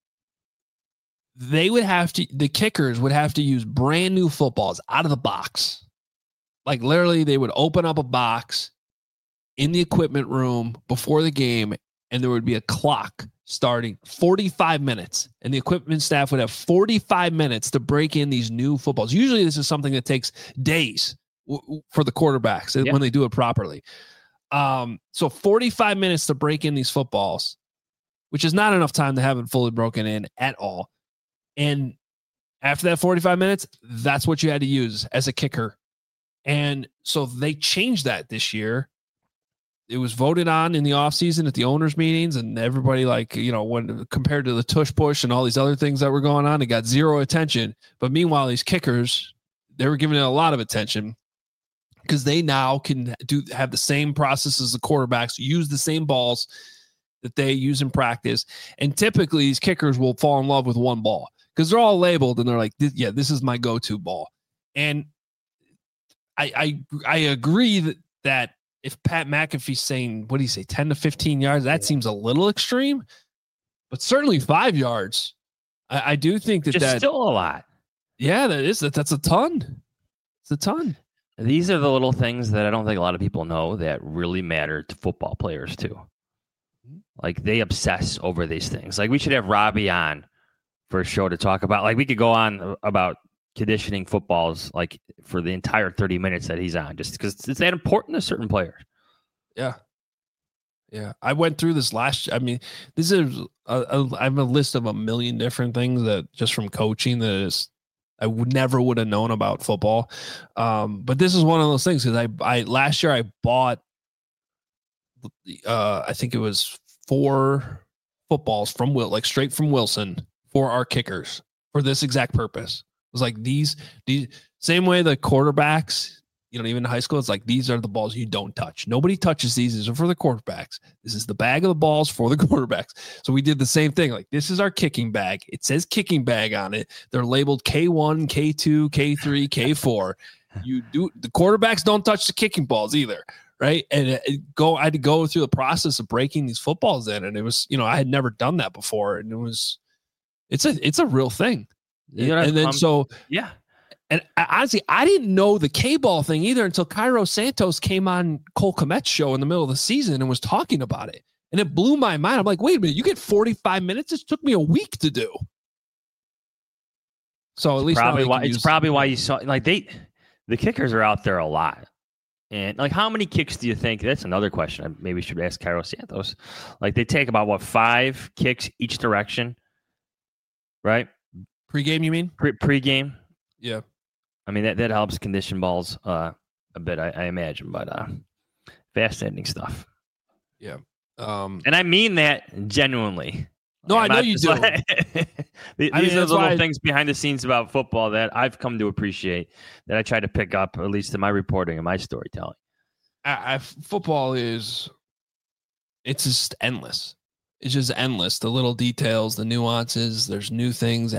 the kickers would have to use brand new footballs out of the box. Like literally, they would open up a box in the equipment room before the game, and there would be a clock starting 45 minutes, and the equipment staff would have 45 minutes to break in these new footballs. Usually this is something that takes days for the quarterbacks when they do it properly. So 45 minutes to break in these footballs, which is not enough time to have it fully broken in at all. And after that 45 minutes, that's what you had to use as a kicker. And so they changed that this year. it was voted on in the offseason at the owners meetings, and everybody, like, when compared to the tush push and all these other things that were going on, it got zero attention. But meanwhile, these kickers, they were giving it a lot of attention because they now can have the same process as the quarterbacks, use the same balls that they use in practice. And typically these kickers will fall in love with one ball because they're all labeled and they're like, this is my go-to ball. And I agree that if Pat McAfee's saying, what do you say, 10 to 15 yards, that seems a little extreme, but certainly 5 yards. I do think that's still a lot. Yeah, that's a ton. It's a ton. These are the little things that I don't think a lot of people know that really matter to football players too. Like, they obsess over these things. Like, we should have Robbie on for a show to talk about. Like, we could go on about conditioning footballs like for the entire 30 minutes that he's on, just because it's that important to certain players. Yeah. I went through this this is I have a list of a million different things that just from coaching that is I never would have known about football. But this is one of those things because I last year I bought I think it was 4 footballs from straight from Wilson for our kickers for this exact purpose. It was like these same way the quarterbacks, even in high school, it's like these are the balls you don't touch. Nobody touches these. These are for the quarterbacks. This is the bag of the balls for the quarterbacks. So we did the same thing. Like, this is our kicking bag. It says kicking bag on it. They're labeled K1, K2, K3, K4. The quarterbacks don't touch the kicking balls either. Right. And I had to go through the process of breaking these footballs in. And it was, I had never done that before. And it's a real thing. And then yeah. And honestly, I didn't know the K-ball thing either until Cairo Santos came on Cole Kmet's show in the middle of the season and was talking about it. And it blew my mind. I'm like, wait a minute, you get 45 minutes? It took me a week to do. So at least probably why you saw, like, the kickers are out there a lot. And, like, how many kicks do you think? That's another question I maybe should ask Cairo Santos. Like, they take about 5 kicks each direction, right? Pre-game, you mean? Pre-game. Yeah. I mean, that helps condition balls a bit, I imagine, but fascinating stuff. Yeah. And I mean that genuinely. No, I know you do. These are the little things behind the scenes about football that I've come to appreciate, that I try to pick up, at least in my reporting and my storytelling. Football it's just endless. It's just endless. The little details, the nuances, there's new things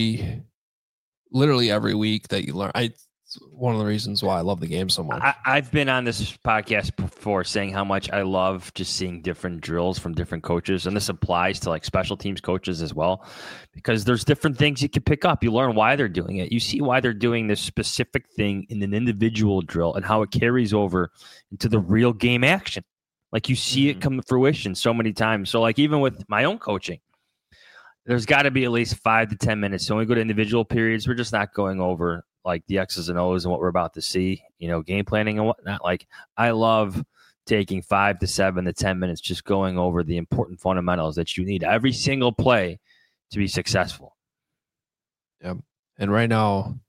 literally every week that you learn. It's one of the reasons why I love the game so much. I've been on this podcast before saying how much I love just seeing different drills from different coaches. And this applies to, like, special teams coaches as well, because there's different things you can pick up. You learn why they're doing it. You see why they're doing this specific thing in an individual drill and how it carries over into the real game action. Like, you see it come to fruition so many times. So, like, even with my own coaching, there's got to be at least 5 to 10 minutes. So when we go to individual periods, we're just not going over, like, the X's and O's and what we're about to see, game planning and whatnot. Like, I love taking 5 to 7 to 10 minutes just going over the important fundamentals that you need every single play to be successful. Yeah. And right now,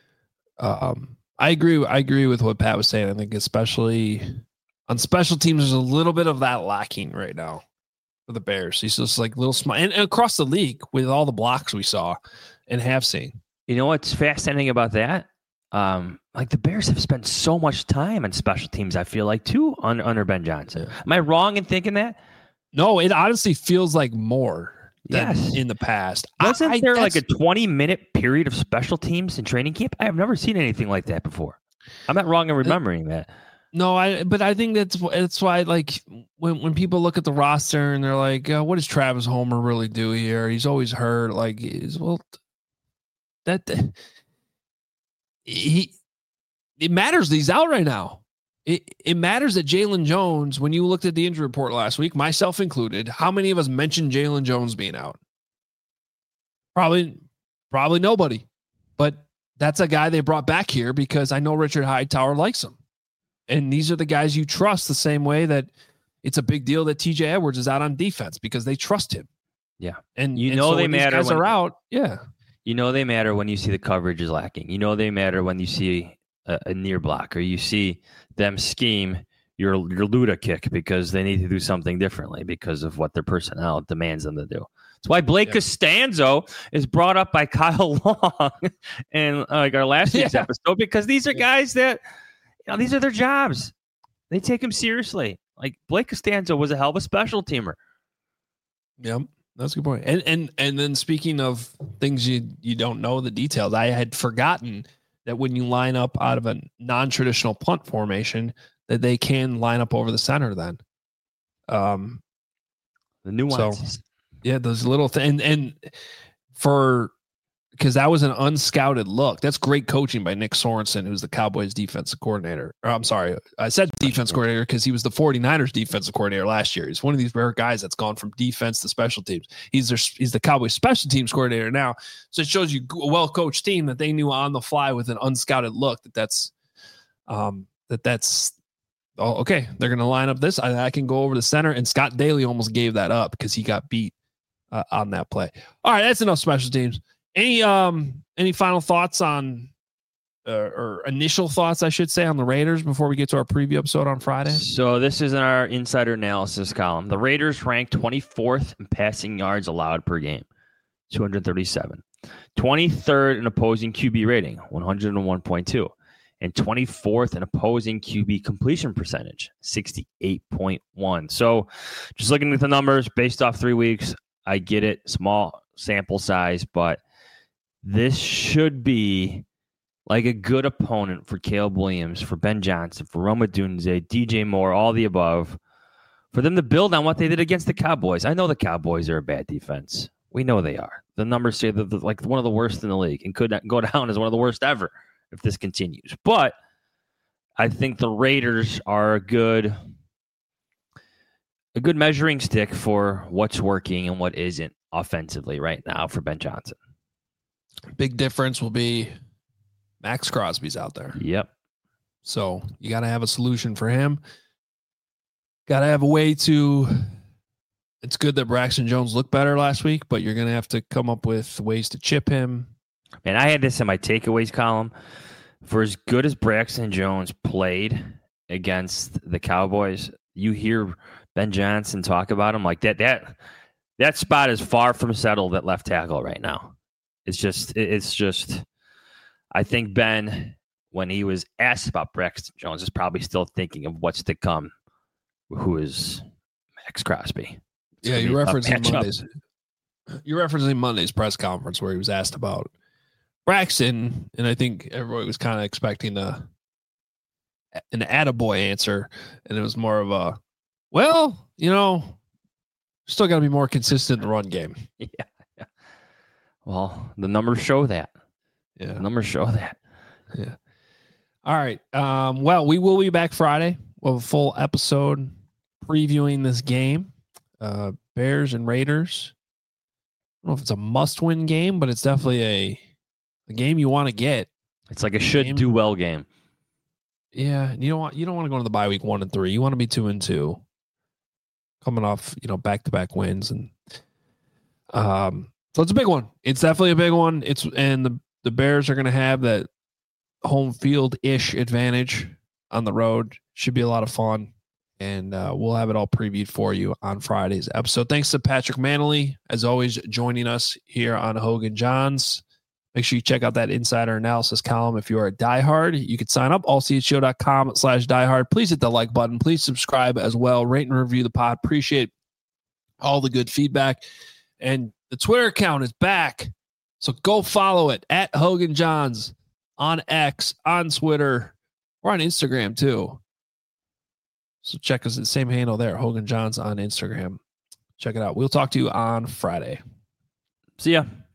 I agree with what Pat was saying. I think especially on special teams, there's a little bit of that lacking right now for the Bears. He's just like little small, and across the league with all the blocks we saw and have seen. You know what's fascinating about that? Like, the Bears have spent so much time on special teams, I feel like, too, under Ben Johnson. Yeah. Am I wrong in thinking that? No, it honestly feels like more than in the past. Wasn't there like a 20-minute period of special teams in training camp? I have never seen anything like that before. I'm not wrong in remembering that. No, but I think that's why, like, when people look at the roster and they're like, what does Travis Homer really do here? He's always hurt. Like, it matters that he's out right now. It matters that Jalen Jones, when you looked at the injury report last week, myself included, how many of us mentioned Jalen Jones being out? Probably nobody. But that's a guy they brought back here because I know Richard Hightower likes him. And these are the guys you trust the same way that it's a big deal that TJ Edwards is out on defense because they trust him. Yeah. And they when matter these guys are out. Yeah. They matter when you see the coverage is lacking. They matter when you see a near block or you see them scheme, your Luda kick because they need to do something differently because of what their personnel demands them to do. That's why Blake Costanzo is brought up by Kyle Long in like our last week's episode, because these are guys that, these are their jobs. They take them seriously. Like Blake Costanzo was a hell of a special teamer. Yep, that's a good point. And then speaking of things you don't know the details, I had forgotten that when you line up out of a non-traditional punt formation, that they can line up over the center then. The nuances. So, yeah, those little things. And because that was an unscouted look. That's great coaching by Nick Sorensen, who's the Cowboys defensive coordinator. I'm sorry, I said defense coordinator because he was the 49ers defensive coordinator last year. He's one of these rare guys that's gone from defense to special teams. He's the Cowboys special teams coordinator now. So it shows you a well-coached team that they knew on the fly with an unscouted look that's okay. They're going to line up this. I can go over the center, and Scott Daly almost gave that up because he got beat on that play. All right, that's enough special teams. Any final thoughts on or initial thoughts, I should say, on the Raiders before we get to our preview episode on Friday? So this is in our insider analysis column. The Raiders ranked 24th in passing yards allowed per game, 237. 23rd in opposing QB rating, 101.2. And 24th in opposing QB completion percentage, 68.1. So just looking at the numbers based off 3 weeks, I get it. Small sample size, but this should be like a good opponent for Caleb Williams, for Ben Johnson, for Rome Odunze, DJ Moore, all the above, for them to build on what they did against the Cowboys. I know the Cowboys are a bad defense. We know they are. The numbers say they're like one of the worst in the league and could go down as one of the worst ever if this continues. But I think the Raiders are a good measuring stick for what's working and what isn't offensively right now for Ben Johnson. Big difference will be Max Crosby's out there. Yep. So you got to have a solution for him. Got to have a way to. It's good that Braxton Jones looked better last week, but you're going to have to come up with ways to chip him. And I had this in my takeaways column. For as good as Braxton Jones played against the Cowboys, you hear Ben Johnson talk about him like that spot is far from settled at left tackle right now. It's just I think Ben, when he was asked about Braxton Jones, is probably still thinking of what's to come, who is Max Crosby. Yeah, you're referencing Monday's press conference where he was asked about Braxton, and I think everybody was kind of expecting an attaboy answer, and it was more of a, well, still got to be more consistent in the run game. Yeah. Well, the numbers show that. Yeah, the numbers show that. Yeah. All right. Well, we will be back Friday. We'll have a full episode previewing this game, Bears and Raiders. I don't know if it's a must-win game, but it's definitely a game you want to get. It's like a should-do-well game. Yeah, you don't want to go into the bye week 1-3. You want to be 2-2, coming off back-to-back wins, and so it's a big one. It's definitely a big one. And the Bears are going to have that home field-ish advantage on the road. Should be a lot of fun, and we'll have it all previewed for you on Friday's episode. Thanks to Patrick Manley, as always, joining us here on Hogan Johns. Make sure you check out that insider analysis column. If you are a diehard, you can sign up, allchshow.com/diehard. Please hit the like button. Please subscribe as well. Rate and review the pod. Appreciate all the good feedback. And the Twitter account is back, so go follow it at Hogan Johns on X, on Twitter. We're on Instagram too. So check us at the same handle there, Hogan Johns on Instagram. Check it out. We'll talk to you on Friday. See ya.